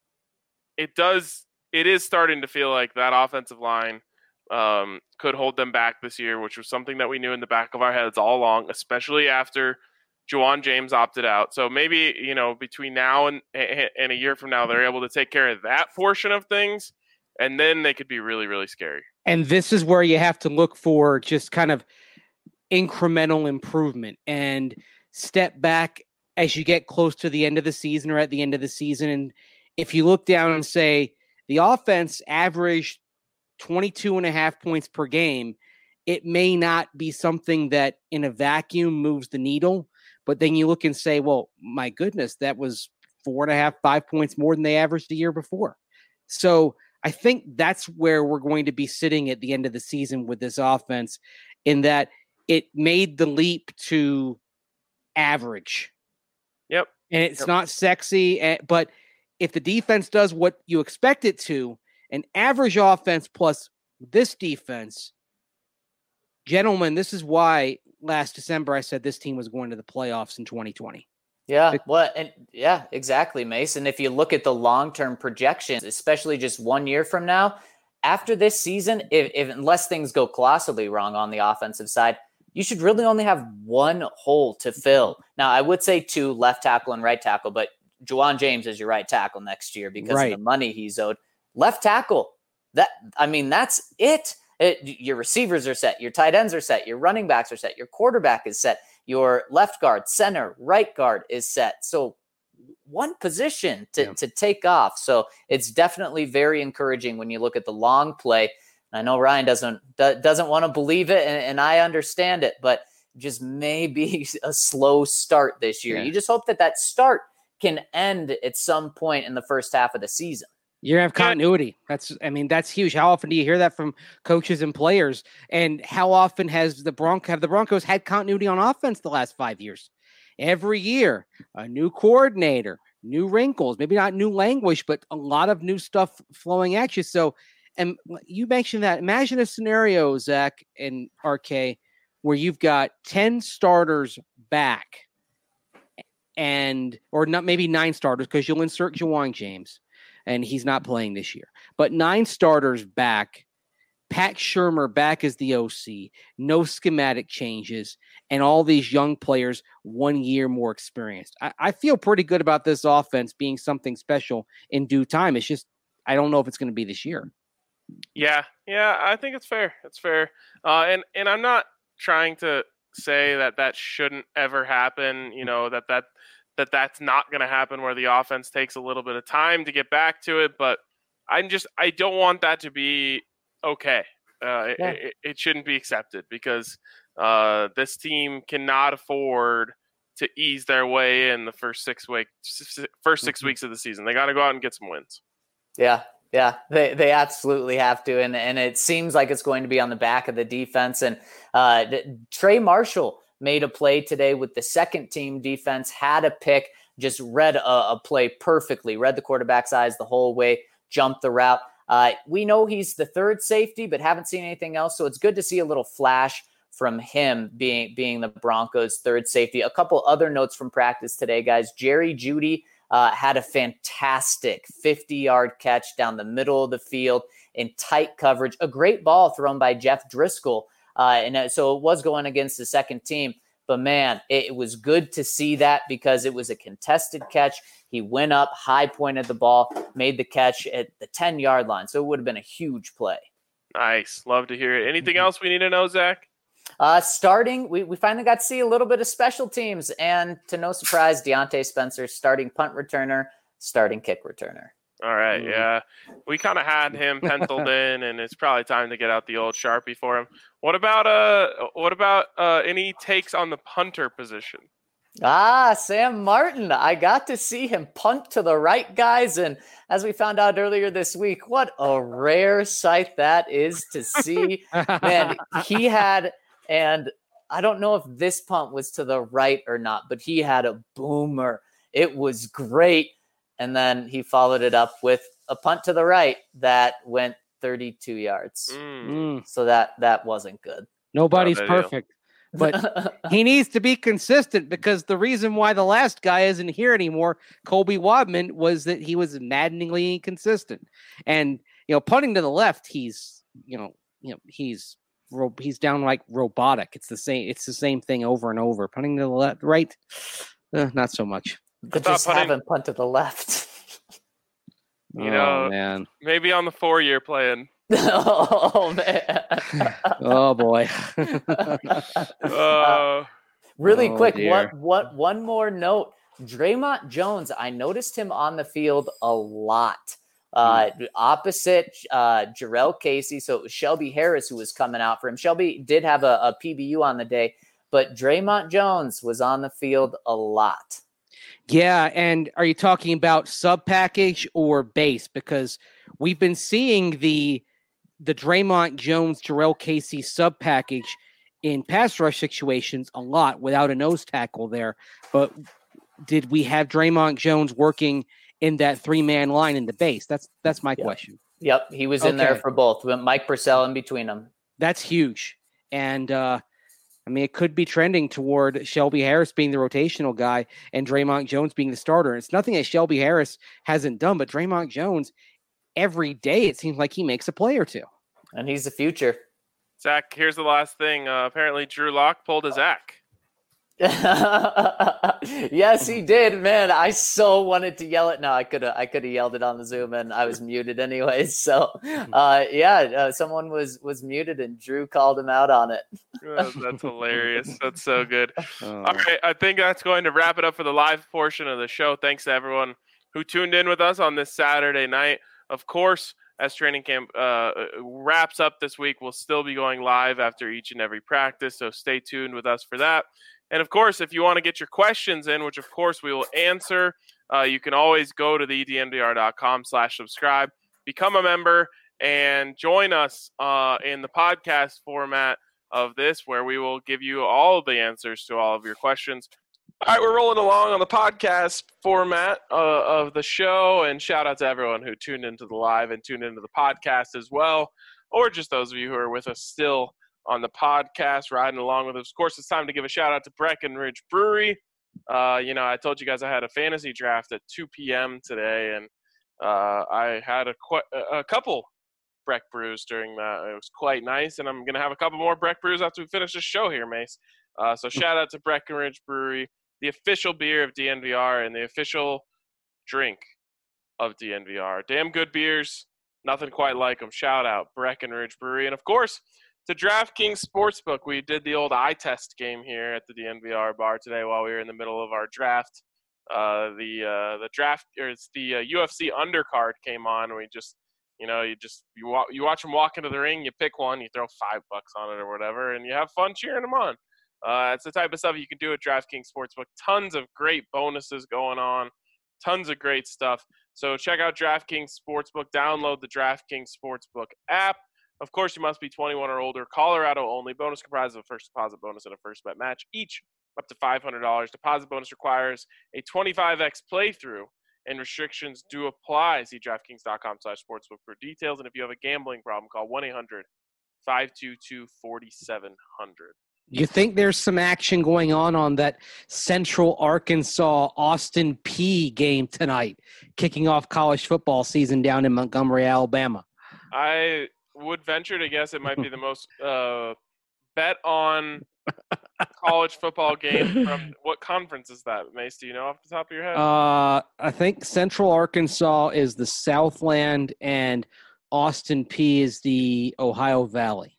it does, it is starting to feel like that offensive line um, could hold them back this year, which was something that we knew in the back of our heads all along, especially after Juwan James opted out. So maybe, you know, between now and, and a year from now, they're able to take care of that portion of things, and then they could be really, really scary. And this is where you have to look for just kind of incremental improvement and step back as you get close to the end of the season or at the end of the season. And if you look down and say the offense averaged twenty-two and a half points per game, it may not be something that in a vacuum moves the needle. But then you look and say, well, my goodness, that was four and a half, five points more than they averaged the year before. So I think that's where we're going to be sitting at the end of the season with this offense, in that it made the leap to average. Yep. And it's yep. not sexy, but if the defense does what you expect it to, an average offense plus this defense, gentlemen, this is why last December I said this team was going to the playoffs in twenty twenty. Yeah, well, and yeah, exactly, Mason. If you look at the long-term projections, especially just one year from now, after this season, if, if unless things go colossally wrong on the offensive side, you should really only have one hole to fill. Now, I would say two, left tackle and right tackle, but Juwan James is your right tackle next year because right. of the money he's owed. Left tackle, that I mean, that's it. it. Your receivers are set, your tight ends are set, your running backs are set, your quarterback is set, your left guard, center, right guard is set. So one position to, yeah. to take off. So it's definitely very encouraging when you look at the long play. I know Ryan doesn't doesn't want to believe it, and, and I understand it, but just maybe a slow start this year. Yeah. You just hope that that start can end at some point in the first half of the season. You have continuity. That's, I mean, that's huge. How often do you hear that from coaches and players? And how often has the Bronco have the Broncos had continuity on offense the last five years? Every year, a new coordinator, new wrinkles, maybe not new language, but a lot of new stuff flowing at you. So, and you mentioned that. Imagine a scenario, Zach and R K, where you've got ten starters back, and or not maybe nine starters because you'll insert Juwan James, and he's not playing this year. But nine starters back, Pat Shurmur back as the O C, no schematic changes, and all these young players one year more experienced. I, I feel pretty good about this offense being something special in due time. It's just I don't know if it's going to be this year. Yeah, yeah, I think it's fair. It's fair. Uh, and, and I'm not trying to say that that shouldn't ever happen, you know, that, that, that that's not going to happen where the offense takes a little bit of time to get back to it. But I'm just, I don't want that to be okay. Uh, yeah. it, it shouldn't be accepted because uh, this team cannot afford to ease their way in the first six week, first six mm-hmm. weeks of the season. They got to go out and get some wins. Yeah. Yeah, they they absolutely have to, and and it seems like it's going to be on the back of the defense. And uh, Trey Marshall made a play today with the second team defense, had a pick, just read a, a play perfectly, read the quarterback's eyes the whole way, jumped the route. Uh, we know he's the third safety, but haven't seen anything else, so it's good to see a little flash from him being being the Broncos' third safety. A couple other notes from practice today, guys. Jerry Jeudy Uh, had a fantastic fifty-yard catch down the middle of the field in tight coverage. A great ball thrown by Jeff Driscoll. Uh, and uh, so it was going against the second team. But, man, it, it was good to see that because it was a contested catch. He went up, high-pointed the ball, made the catch at the ten-yard line. So it would have been a huge play. Nice. Love to hear it. Anything else we need to know, Zach? Uh, starting, we, we finally got to see a little bit of special teams, and to no surprise, Deontay Spencer, starting punt returner, starting kick returner. All right, mm. yeah. We kind of had him penciled in, and it's probably time to get out the old Sharpie for him. What about uh, what about uh, any takes on the punter position? Ah, Sam Martin. I got to see him punt to the right guys, and as we found out earlier this week, what a rare sight that is to see. Man, he had... And I don't know if this punt was to the right or not, but he had a boomer. It was great. And then he followed it up with a punt to the right that went thirty-two yards. Mm. So that, that wasn't good. Nobody's perfect, but he needs to be consistent because the reason why the last guy isn't here anymore, Colby Wadman, was that he was maddeningly inconsistent. And, you know, punting to the left, he's, you know, you know, he's, he's down like robotic. It's the same. It's the same thing over and over. Punting to the left, right, uh, not so much. But just punting. Have him punt to the left. You know, oh, man. Maybe on the four-year plan. oh man. oh boy. uh, really oh, quick, what what one more note. Dre'Mont Jones, I noticed him on the field a lot. Uh, opposite uh, Jarrell Casey. So it was Shelby Harris who was coming out for him. Shelby did have a, a P B U on the day, but Dre'Mont Jones was on the field a lot. Yeah, and are you talking about sub package or base? Because we've been seeing the the Dre'Mont Jones, Jarrell Casey sub package in pass rush situations a lot without a nose tackle there. But did we have Dre'Mont Jones working in that three-man line in the base? That's that's my yep. question. Yep, he was in okay. there for both. With Mike Purcell in between them. That's huge. And uh, I mean, it could be trending toward Shelby Harris being the rotational guy and Draymond Jones being the starter. It's nothing that Shelby Harris hasn't done, but Draymond Jones, every day, it seems like he makes a play or two. And he's the future. Zach, here's the last thing. Uh, apparently, Drew Lock pulled a Zach. Yes, he did, man. I so wanted to yell it. No, I could have. I could have yelled it on the Zoom, and I was muted anyways. So, uh, yeah, uh, someone was was muted, and Drew called him out on it. Oh, that's hilarious. That's so good. Oh. All right, I think that's going to wrap it up for the live portion of the show. Thanks to everyone who tuned in with us on this Saturday night. Of course, as training camp uh, wraps up this week, we'll still be going live after each and every practice. So stay tuned with us for that. And, of course, if you want to get your questions in, which, of course, we will answer, uh, you can always go to the d n v r dot com slash subscribe, become a member, and join us uh, in the podcast format of this, where we will give you all the answers to all of your questions. All right, we're rolling along on the podcast format uh, of the show, and shout out to everyone who tuned into the live and tuned into the podcast as well, or just those of you who are with us still on the podcast, riding along with us. Of course, it's time to give a shout out to Breckenridge Brewery. Uh, you know, I told you guys I had a fantasy draft at two p.m. today, and uh, I had a, qu- a couple Breck brews during that. It was quite nice, and I'm going to have a couple more Breck brews after we finish this show here, Mace. Uh, so shout out to Breckenridge Brewery, the official beer of D N V R and the official drink of D N V R. Damn good beers. Nothing quite like them. Shout out Breckenridge Brewery. And, of course, to DraftKings Sportsbook. We did the old eye test game here at the D N V R bar today while we were in the middle of our draft. Uh, the uh, the draft or it's the uh, U F C undercard came on. And we just, you know, you just you, wa- you watch them walk into the ring, you pick one, you throw five bucks on it or whatever, and you have fun cheering them on. Uh, it's the type of stuff you can do at DraftKings Sportsbook. Tons of great bonuses going on. Tons of great stuff. So check out DraftKings Sportsbook. Download the DraftKings Sportsbook app. Of course, you must be twenty-one or older. Colorado only. Bonus comprised of a first deposit bonus and a first bet match, each up to five hundred dollars. Deposit bonus requires a twenty-five x playthrough, and restrictions do apply. See DraftKings dot com slash sportsbook for details. And if you have a gambling problem, call one eight hundred five two two four seven zero zero. You think there's some action going on on that Central Arkansas Austin Peay game tonight, kicking off college football season down in Montgomery, Alabama? I would venture to guess it might be the most uh, bet on college football game from what conference is that, Mace? Do you know off the top of your head? Uh, I think Central Arkansas is the Southland and Austin Peay is the Ohio Valley.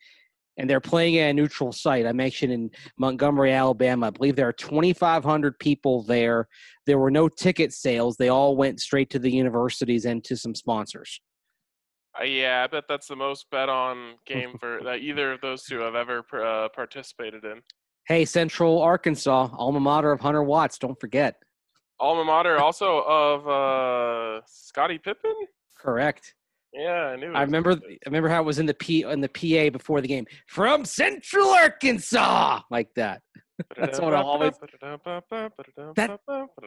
And they're playing at a neutral site. I mentioned in Montgomery, Alabama. I believe there are twenty-five hundred people there. There were no ticket sales. They all went straight to the universities and to some sponsors. Uh, yeah, I bet that's the most bet on game for that either of those two have ever uh, participated in. Hey, Central Arkansas, alma mater of Hunter Watts. Don't forget. Alma mater also of uh, Scottie Pippen? Correct. Yeah, I knew. I remember. I remember how it was in the P in the P A before the game. From Central Arkansas, like that. That's what I always. That,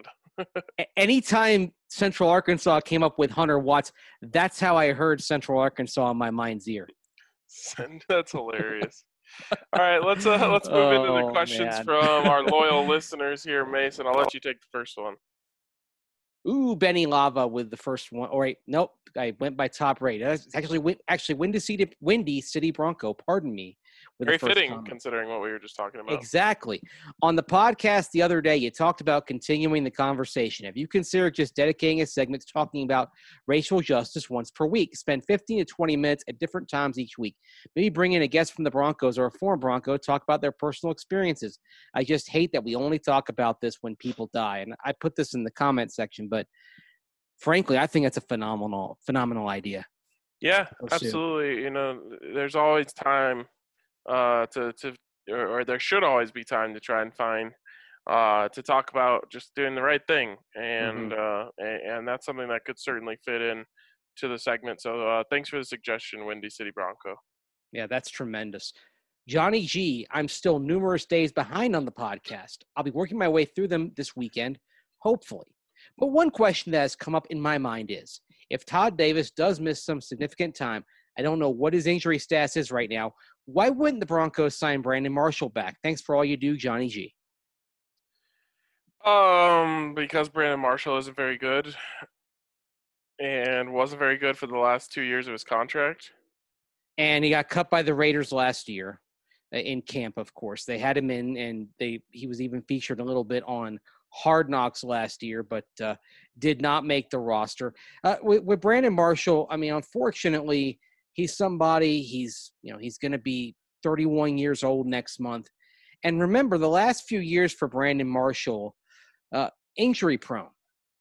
anytime Central Arkansas came up with Hunter Watts, that's how I heard Central Arkansas in my mind's ear. That's hilarious. All right, let's uh, let's move into the Oh, questions man. from our loyal listeners here, Mason. I'll let you take the first one. Ooh, Benny Lava with the first one. All right, nope, I went by top rate. That's actually Win- actually Windy City, Windy City Bronco. Pardon me. With Very the first fitting, comment. considering what we were just talking about. Exactly. On the podcast the other day, you talked about continuing the conversation. Have you considered just dedicating a segment to talking about racial justice once per week? Spend fifteen to twenty minutes at different times each week. Maybe bring in a guest from the Broncos or a former Bronco to talk about their personal experiences. I just hate that we only talk about this when people die. And I put this in the comment section, but frankly, I think it's a phenomenal, phenomenal idea. Yeah, Pursue. absolutely. You know, there's always time uh, to, to or, or there should always be time to try and find uh, to talk about just doing the right thing. And, Mm-hmm. uh, and, and that's something that could certainly fit in to the segment. So uh, thanks for the suggestion, Windy City Bronco. Yeah, that's tremendous. Johnny G, I'm still numerous days behind on the podcast. I'll be working my way through them this weekend, hopefully. But one question that has come up in my mind is, if Todd Davis does miss some significant time, I don't know what his injury status is right now, why wouldn't the Broncos sign Brandon Marshall back? Thanks for all you do, Johnny G. Um, because Brandon Marshall isn't very good and wasn't very good for the last two years of his contract. And he got cut by the Raiders last year in camp, of course. They had him in, and they he was even featured a little bit on Hard Knocks last year, but uh, did not make the roster. Uh, with, with Brandon Marshall, I mean, unfortunately, he's somebody, he's, you know, he's going to be thirty-one years old next month. And remember, the last few years for Brandon Marshall, uh, injury prone.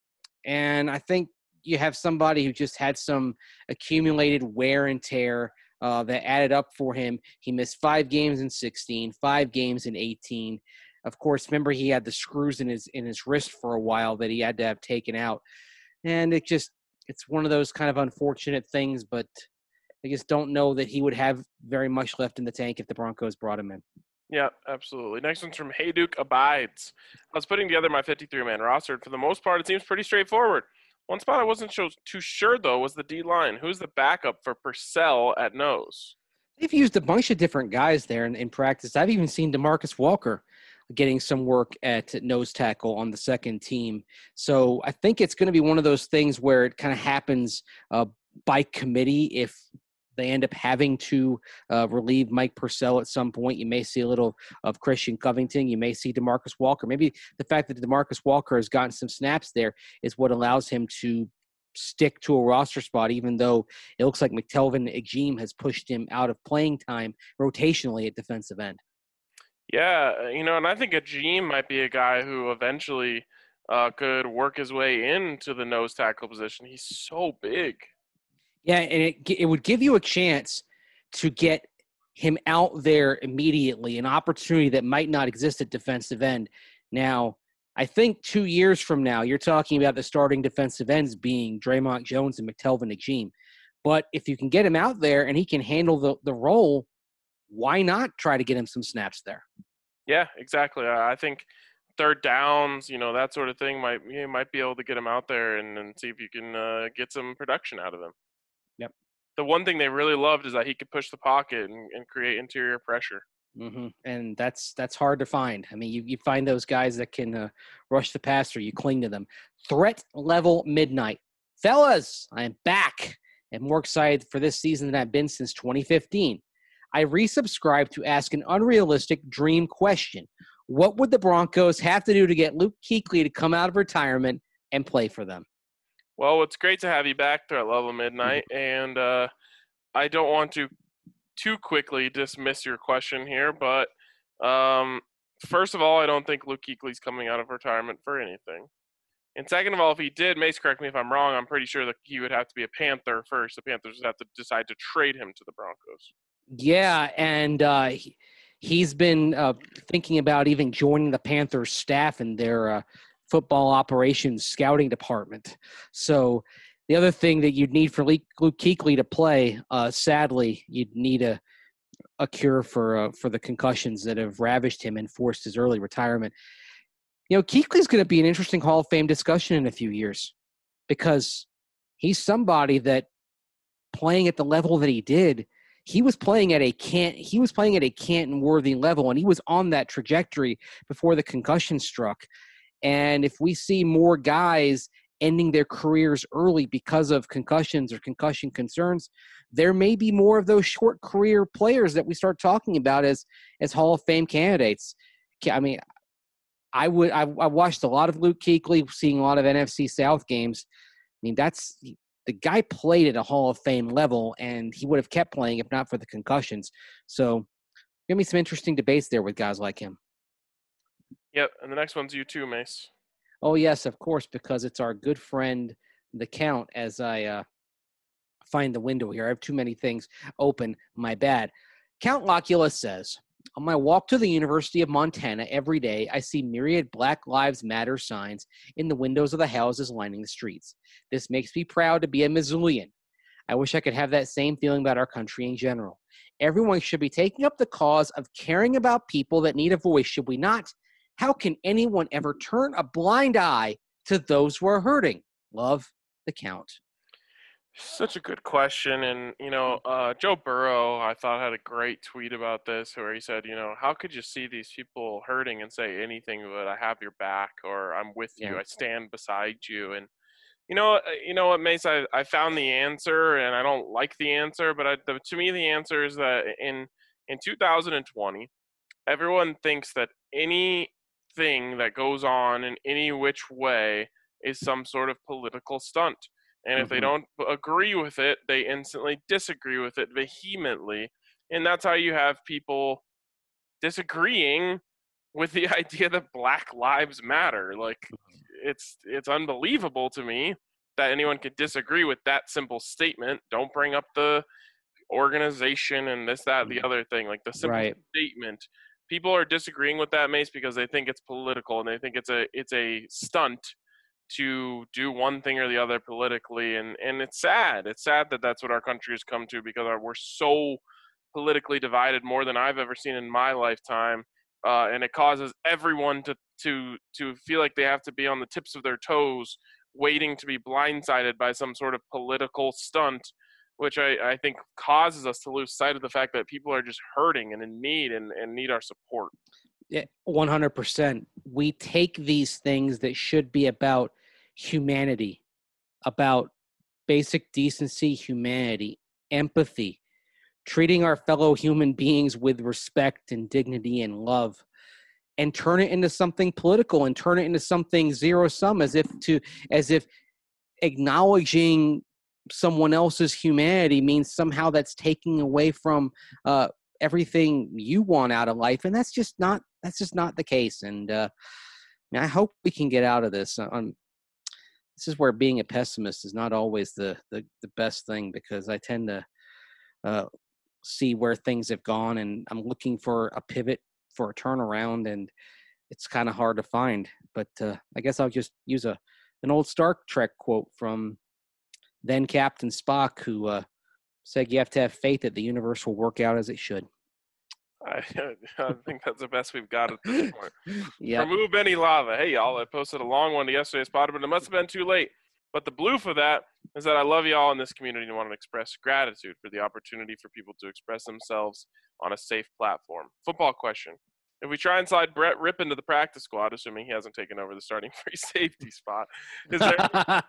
And I think you have somebody who just had some accumulated wear and tear uh, that added up for him. He missed five games in sixteen, five games in eighteen. Of course, remember he had the screws in his in his wrist for a while that he had to have taken out. And it just it's one of those kind of unfortunate things, but I just don't know that he would have very much left in the tank if the Broncos brought him in. Yeah, absolutely. Next one's from Hey Duke Abides. I was putting together my fifty-three man roster, and for the most part, it seems pretty straightforward. One spot I wasn't so, too sure, though, was the D-line. Who's the backup for Purcell at nose? They've used a bunch of different guys there in, in practice. I've even seen DeMarcus Walker getting some work at nose tackle on the second team. So I think it's going to be one of those things where it kind of happens uh, by committee. If they end up having to uh, relieve Mike Purcell at some point, you may see a little of Christian Covington. You may see DeMarcus Walker. Maybe the fact that DeMarcus Walker has gotten some snaps there is what allows him to stick to a roster spot, even though it looks like McTelvin Agim has pushed him out of playing time rotationally at defensive end. Yeah, you know, and I think Agim might be a guy who eventually uh, could work his way into the nose tackle position. He's so big. Yeah, and it it would give you a chance to get him out there immediately, an opportunity that might not exist at defensive end. Now, I think two years from now, you're talking about the starting defensive ends being Draymond Jones and McTelvin Agim. But if you can get him out there and he can handle the, the role, why not try to get him some snaps there? Yeah, exactly. I think third downs, you know, that sort of thing, might you might be able to get him out there and, and see if you can uh, get some production out of him. Yep. The one thing they really loved is that he could push the pocket and, and create interior pressure. Mm-hmm. And that's that's hard to find. I mean, you, you find those guys that can uh, rush the passer, you cling to them. Threat level midnight. Fellas, I am back and more excited for this season than I've been since twenty fifteen. I resubscribed to ask an unrealistic dream question. What would the Broncos have to do to get Luke Kuechly to come out of retirement and play for them? Well, it's great to have you back there at Level Midnight, and uh, I don't want to too quickly dismiss your question here, but um, first of all, I don't think Luke Kuechly's coming out of retirement for anything. And second of all, if he did, Mace, correct me if I'm wrong, I'm pretty sure that he would have to be a Panther first. The Panthers would have to decide to trade him to the Broncos. Yeah, and uh, he, he's been uh, thinking about even joining the Panthers staff in their uh, football operations scouting department. So the other thing that you'd need for Luke Kuechly to play, uh, sadly, you'd need a a cure for uh, for the concussions that have ravaged him and forced his early retirement. You know, Kuechly's going to be an interesting Hall of Fame discussion in a few years because he's somebody that playing at the level that he did, he was playing at a Cant, he was playing at a Canton-worthy level, and he was on that trajectory before the concussion struck. And if we see more guys ending their careers early because of concussions or concussion concerns, there may be more of those short career players that we start talking about as as Hall of Fame candidates. I mean, I would I, I watched a lot of Luke Kuechly, seeing a lot of N F C South games. I mean, that's the guy played at a Hall of Fame level, and he would have kept playing if not for the concussions. So, give me some interesting debates there with guys like him. Yep, and the next one's you too, Mace. Oh, yes, of course, because it's our good friend, the Count, as I uh, find the window here. I have too many things open. My bad. Count Locula says, on my walk to the University of Montana every day, I see myriad Black Lives Matter signs in the windows of the houses lining the streets. This makes me proud to be a Missoulian. I wish I could have that same feeling about our country in general. Everyone should be taking up the cause of caring about people that need a voice, should we not? How can anyone ever turn a blind eye to those who are hurting? Love, the Count. Such a good question. And, you know, uh, Joe Burrow, I thought, had a great tweet about this where he said, you know, how could you see these people hurting and say anything but I have your back or I'm with Yeah. you, I stand beside you. And, you know, uh, you know what, Mace, I, I found the answer and I don't like the answer, but I, the, to me, the answer is that in, in two thousand twenty, everyone thinks that anything that goes on in any which way is some sort of political stunt. And if they Mhm. don't agree with it, they instantly disagree with it vehemently. And that's how you have people disagreeing with the idea that Black Lives Matter. Like, it's it's unbelievable to me that anyone could disagree with that simple statement. Don't bring up the organization and this, that, the other thing. Like the simple Right. statement. People are disagreeing with that, Mace, because they think it's political and they think it's a it's a stunt to do one thing or the other politically, and and it's sad. It's sad that that's what our country has come to because our, we're so politically divided, more than I've ever seen in my lifetime, uh, and it causes everyone to to to feel like they have to be on the tips of their toes, waiting to be blindsided by some sort of political stunt, which I, I think causes us to lose sight of the fact that people are just hurting and in need and, and need our support. Yeah, one hundred percent. We take these things that should be about humanity, about basic decency, humanity, empathy, treating our fellow human beings with respect and dignity and love, and turn it into something political and turn it into something zero sum, as if to as if acknowledging someone else's humanity means somehow that's taking away from uh, everything you want out of life, and that's just not that's just not the case. And uh, I hope we can get out of this. Um, this is where being a pessimist is not always the the, the best thing, because I tend to uh, see where things have gone, and I'm looking for a pivot, for a turnaround, and it's kind of hard to find. But uh, I guess I'll just use a an old Star Trek quote from then Captain Spock, who uh, said you have to have faith that the universe will work out as it should. I, I think that's the best we've got at this point. Yeah. Remove any lava. Hey, y'all, I posted a long one to yesterday's pod, but it must have been too late. But the blue for that is that I love y'all in this community and want to express gratitude for the opportunity for people to express themselves on a safe platform. Football question. If we try and slide Brett Ripp into the practice squad, assuming he hasn't taken over the starting free safety spot, is there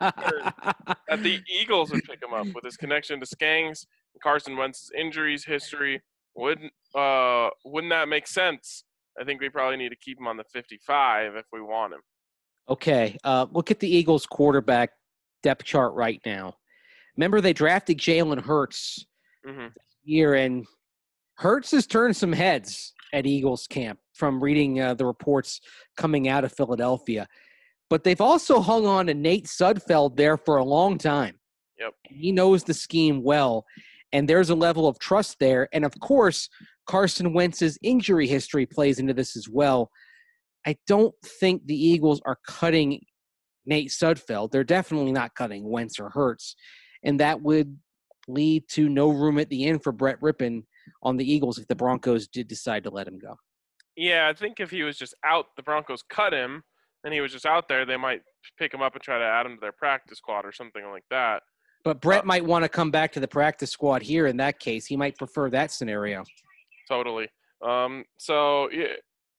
that the Eagles would pick him up with his connection to Skangs, Carson Wentz's injuries history? Wouldn't uh wouldn't that make sense? I think we probably need to keep him on the fifty-five if we want him. Okay, uh, look at the Eagles quarterback depth chart right now. Remember, they drafted Jalen Hurts mm-hmm. this year, and Hurts has turned some heads at Eagles camp from reading uh, the reports coming out of Philadelphia. But they've also hung on to Nate Sudfeld there for a long time. Yep. He knows the scheme well, and there's a level of trust there. And, of course, Carson Wentz's injury history plays into this as well. I don't think the Eagles are cutting Nate Sudfeld. They're definitely not cutting Wentz or Hurts, and that would lead to no room at the end for Brett Rippon on the Eagles if the Broncos did decide to let him go. Yeah, I think if he was just out, the Broncos cut him, and he was just out there, they might pick him up and try to add him to their practice squad or something like that. But Brett uh, might want to come back to the practice squad here in that case. He might prefer that scenario. Totally. Um, so, yeah,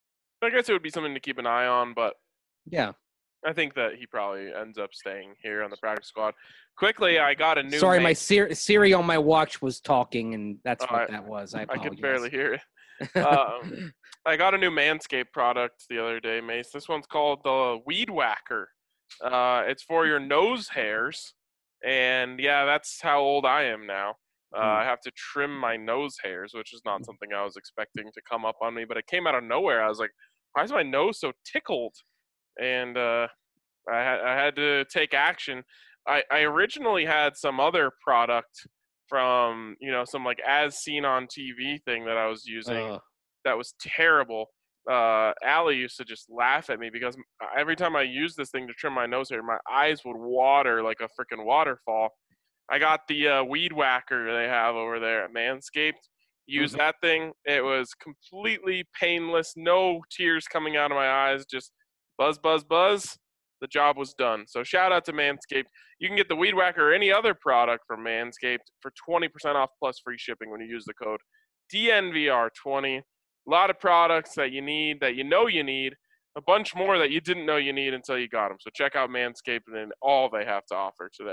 I guess it would be something to keep an eye on, but yeah, I think that he probably ends up staying here on the practice squad. Quickly, I got a new. Sorry, main- my Siri, Siri on my watch was talking, and that's oh, what I, that was. I, I could barely hear it. um, I got a new Manscaped product the other day, Mace. This one's called the Weed Whacker. Uh, it's for your nose hairs, and yeah, that's how old I am now. Uh, I have to trim my nose hairs, which is not something I was expecting to come up on me, but it came out of nowhere. I was like, why is my nose so tickled? And uh, I, ha- I had to take action. I, I originally had some other product from, you know, some like as seen on T V thing that I was using uh. that was terrible. Uh, Allie used to just laugh at me because every time I used this thing to trim my nose hair, my eyes would water like a freaking waterfall. I got the uh, Weed Whacker they have over there at Manscaped. Use mm-hmm. that thing. It was completely painless, no tears coming out of my eyes, just buzz, buzz, buzz. the job was done. So shout out to Manscaped. You can get the Weed Whacker or any other product from Manscaped for twenty percent off plus free shipping when you use the code D N V R twenty. A lot of products that you need, that you know you need, a bunch more that you didn't know you need until you got them. So check out Manscaped and all they have to offer today.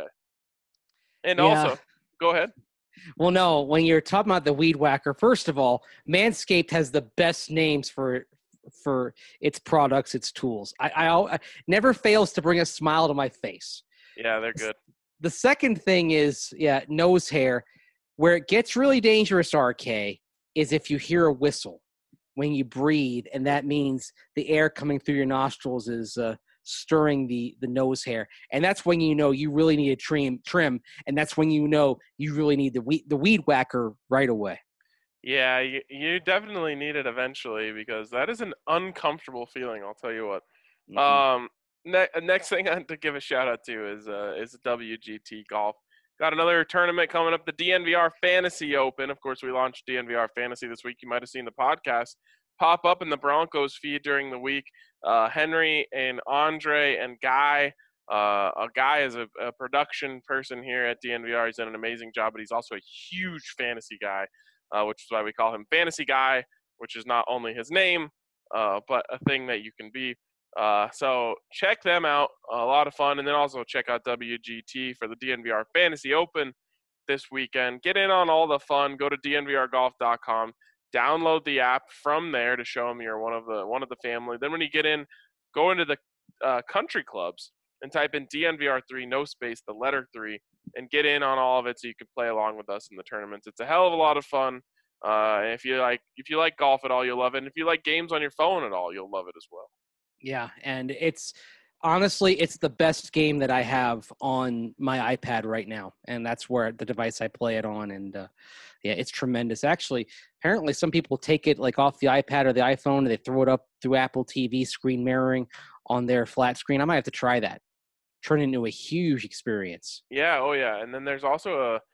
And Yeah. also, go ahead. Well, no, when you're talking about the Weed Whacker, first of all, Manscaped has the best names for for its products, its tools. I, I, I never fails to bring a smile to my face. Yeah, they're good. The second thing is, yeah, nose hair. Where it gets really dangerous, R K, is if you hear a whistle when you breathe, and that means the air coming through your nostrils is uh, stirring the, the nose hair. And that's when you know you really need a trim, trim, and that's when you know you really need the weed, the Weed Whacker right away. Yeah, you, you definitely need it eventually because that is an uncomfortable feeling, I'll tell you what. Mm-hmm. Um, ne- next thing I have to give a shout out to is uh, is W G T Golf. Got another tournament coming up, the D N V R Fantasy Open. Of course, we launched D N V R Fantasy this week. You might have seen the podcast pop up in the Broncos feed during the week. Uh, Henry and Andre and Guy. Uh, a Guy is a, a production person here at D N V R. He's done an amazing job, but he's also a huge fantasy guy, uh, which is why we call him Fantasy Guy, which is not only his name, uh, but a thing that you can be. Uh, so check them out. A lot of fun. And then also check out W G T for the D N V R Fantasy Open this weekend. Get in on all the fun. Go to D N V R golf dot com. Download the app from there to show them you're one of the one of the family. Then when you get in, go into the uh, country clubs and type in D N V R three, no space, the letter three, and get in on all of it so you can play along with us in the tournaments. It's a hell of a lot of fun. Uh, and if you like if you like golf at all, you'll love it. And if you like games on your phone at all, you'll love it as well. Yeah, and it's honestly, it's the best game that I have on my iPad right now, and that's where the device I play it on. And uh, yeah, it's tremendous. Actually, apparently, some people take it like off the iPad or the iPhone, and they throw it up through Apple T V screen mirroring on their flat screen. I might have to try that. Turn it into a huge experience. Yeah, oh yeah, and then there's also a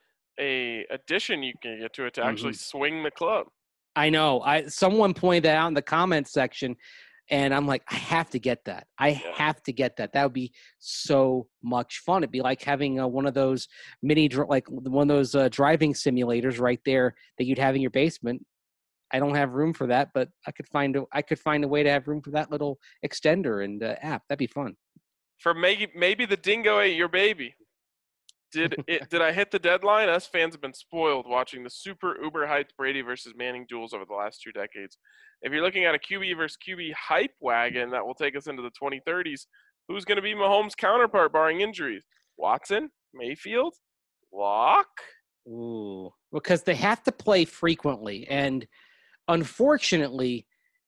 a addition you can get to it to actually mm-hmm. swing the club. I know. I someone pointed that out in the comments section. And I'm like, I have to get that. I yeah. have to get that. That would be so much fun. It'd be like having uh, one of those mini, like one of those uh, driving simulators right there that you'd have in your basement. I don't have room for that, but I could find a, I could find a way to have room for that little extender and uh, app. That'd be fun. For maybe maybe the dingo ate your baby. Did it? Did I hit the deadline? Us fans have been spoiled watching the super uber hyped Brady versus Manning duels over the last two decades. If you're looking at a Q B versus Q B hype wagon that will take us into the twenty thirties, who's going to be Mahomes' counterpart barring injuries? Watson? Mayfield? Lock? Ooh, because they have to play frequently. And unfortunately,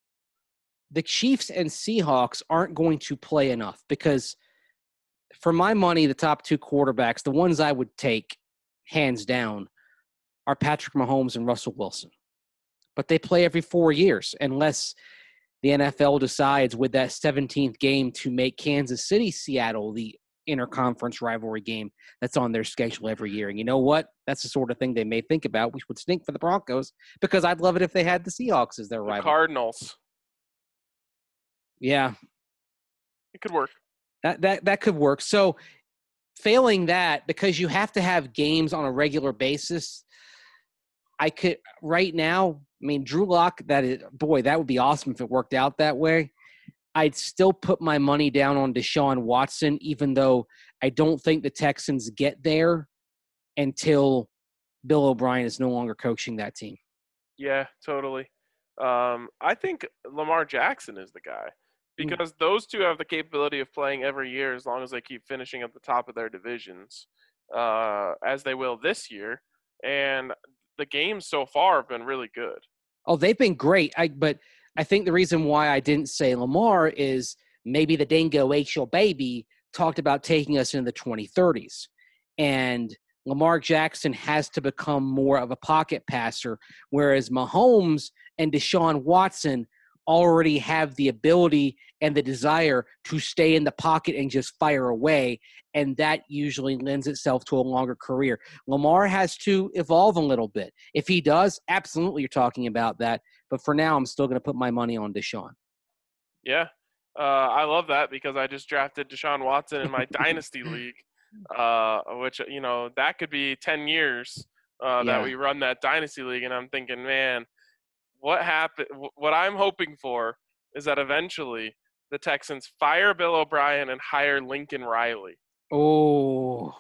the Chiefs and Seahawks aren't going to play enough because for my money, the top two quarterbacks, the ones I would take hands down, are Patrick Mahomes and Russell Wilson. But they play every four years unless the N F L decides with that seventeenth game to make Kansas City, Seattle the interconference rivalry game that's on their schedule every year. And you know what? That's the sort of thing they may think about, which would stink for the Broncos because I'd love it if they had the Seahawks as their the rival. Cardinals. Yeah. It could work. That that that could work. So failing that, because you have to have games on a regular basis, I could right now, I mean, Drew Lock, that is, boy, that would be awesome if it worked out that way. I'd still put my money down on Deshaun Watson, even though I don't think the Texans get there until Bill O'Brien is no longer coaching that team. Yeah, totally. Um, I think Lamar Jackson is the guy. Because those two have the capability of playing every year as long as they keep finishing at the top of their divisions, uh, as they will this year. And the games so far have been really good. Oh, they've been great. I, but I think the reason why I didn't say Lamar is maybe the dingo ate your baby talked about taking us into the twenty thirties. And Lamar Jackson has to become more of a pocket passer, whereas Mahomes and Deshaun Watson already have the ability and the desire to stay in the pocket and just fire away, and that usually lends itself to a longer career. Lamar has to evolve a little bit. If he does, absolutely you're talking about that. But for now, I'm still going to put my money on Deshaun. Yeah, Uh, I love that because I just drafted Deshaun Watson in my dynasty league, uh, which, you know, that could be ten years uh, Yeah. that we run that dynasty league. And I'm thinking, man, what happened? What I'm hoping for is that eventually the Texans fire Bill O'Brien and hire Lincoln Riley. Oh,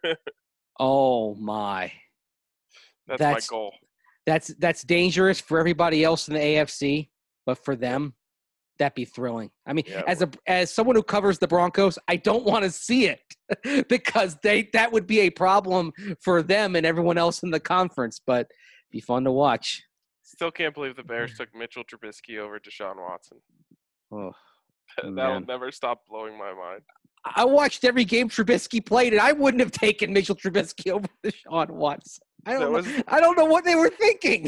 oh my. That's, That's- my goal. That's that's dangerous for everybody else in the A F C, but for them, that'd be thrilling. I mean, Yeah, as a as someone who covers the Broncos, I don't want to see it because they that would be a problem for them and everyone else in the conference. But it'd be fun to watch. Still can't believe the Bears took Mitchell Trubisky over Deshaun Watson. Oh, That'll man. never stop blowing my mind. I watched every game Trubisky played, and I wouldn't have taken Mitchell Trubisky over Deshaun Watson. I don't, That know, was- I don't know what they were thinking.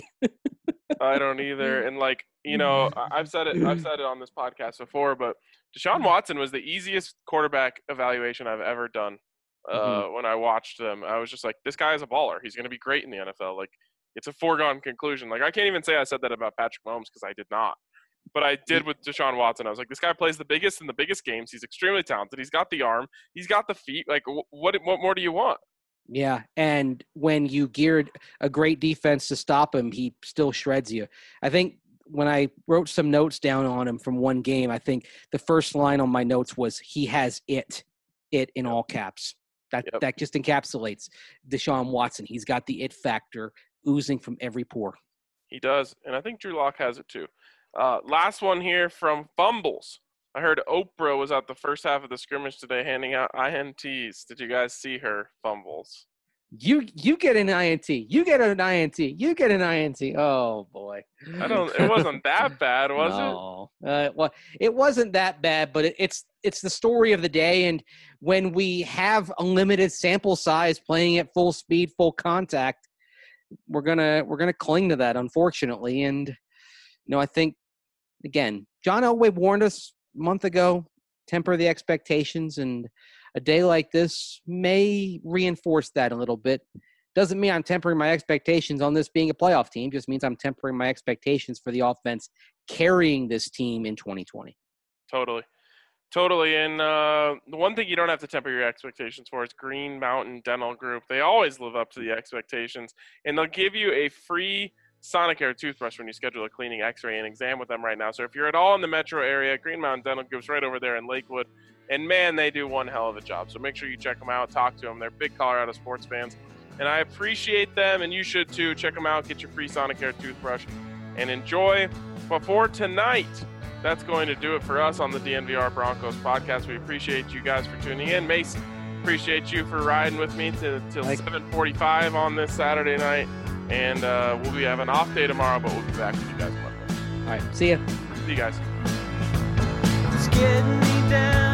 I don't either. And like, you know, I- I've said it I've said it on this podcast before, but Deshaun Watson was the easiest quarterback evaluation I've ever done. Uh, Mhm. when I watched them, I was just like, this guy is a baller. He's going to be great in the N F L. Like, it's a foregone conclusion. Like, I can't even say I said that about Patrick Mahomes because I did not. But I did with Deshaun Watson. I was like, this guy plays the biggest in the biggest games. He's extremely talented. He's got the arm. He's got the feet. Like, wh- what what more do you want? Yeah, and when you geared a great defense to stop him, he still shreds you. I think when I wrote some notes down on him from one game, I think the first line on my notes was he has it, it in all caps. That Yep. that just encapsulates Deshaun Watson. He's got the it factor oozing from every pore. He does. And I think Drew Lock has it too. Uh, last one here from Fumbles. I heard Oprah was at the first half of the scrimmage today handing out I N Ts. Did you guys see her? Fumbles. You you get an I N T. You get an I N T. You get an I N T. Oh boy. I don't. It wasn't that bad, was no. it? Uh, well, it wasn't that bad, but it, it's it's the story of the day. And when we have a limited sample size, playing at full speed, full contact, we're gonna we're gonna cling to that, unfortunately. And you know, I think again, John Elway warned us a month ago: temper the expectations, and a day like this may reinforce that a little bit. Doesn't mean I'm tempering my expectations on this being a playoff team. Just means I'm tempering my expectations for the offense carrying this team in twenty twenty. Totally. Totally. And uh, the one thing you don't have to temper your expectations for is Green Mountain Dental Group. They always live up to the expectations, and they'll give you a free Sonicare toothbrush when you schedule a cleaning, x-ray, and exam with them right now. So if you're at all in the metro area, Green Mountain Dental Group's right over there in Lakewood. And, man, they do one hell of a job. So make sure you check them out, talk to them. They're big Colorado sports fans. And I appreciate them, and you should too. Check them out. Get your free Sonicare toothbrush and enjoy. But for tonight, that's going to do it for us on the D N V R Broncos podcast. We appreciate you guys for tuning in. Mason, appreciate you for riding with me till seven forty-five on this Saturday night. And uh, we'll be having an off day tomorrow, but we'll be back with you guys Monday. All right. See ya. See you guys. It's getting me down.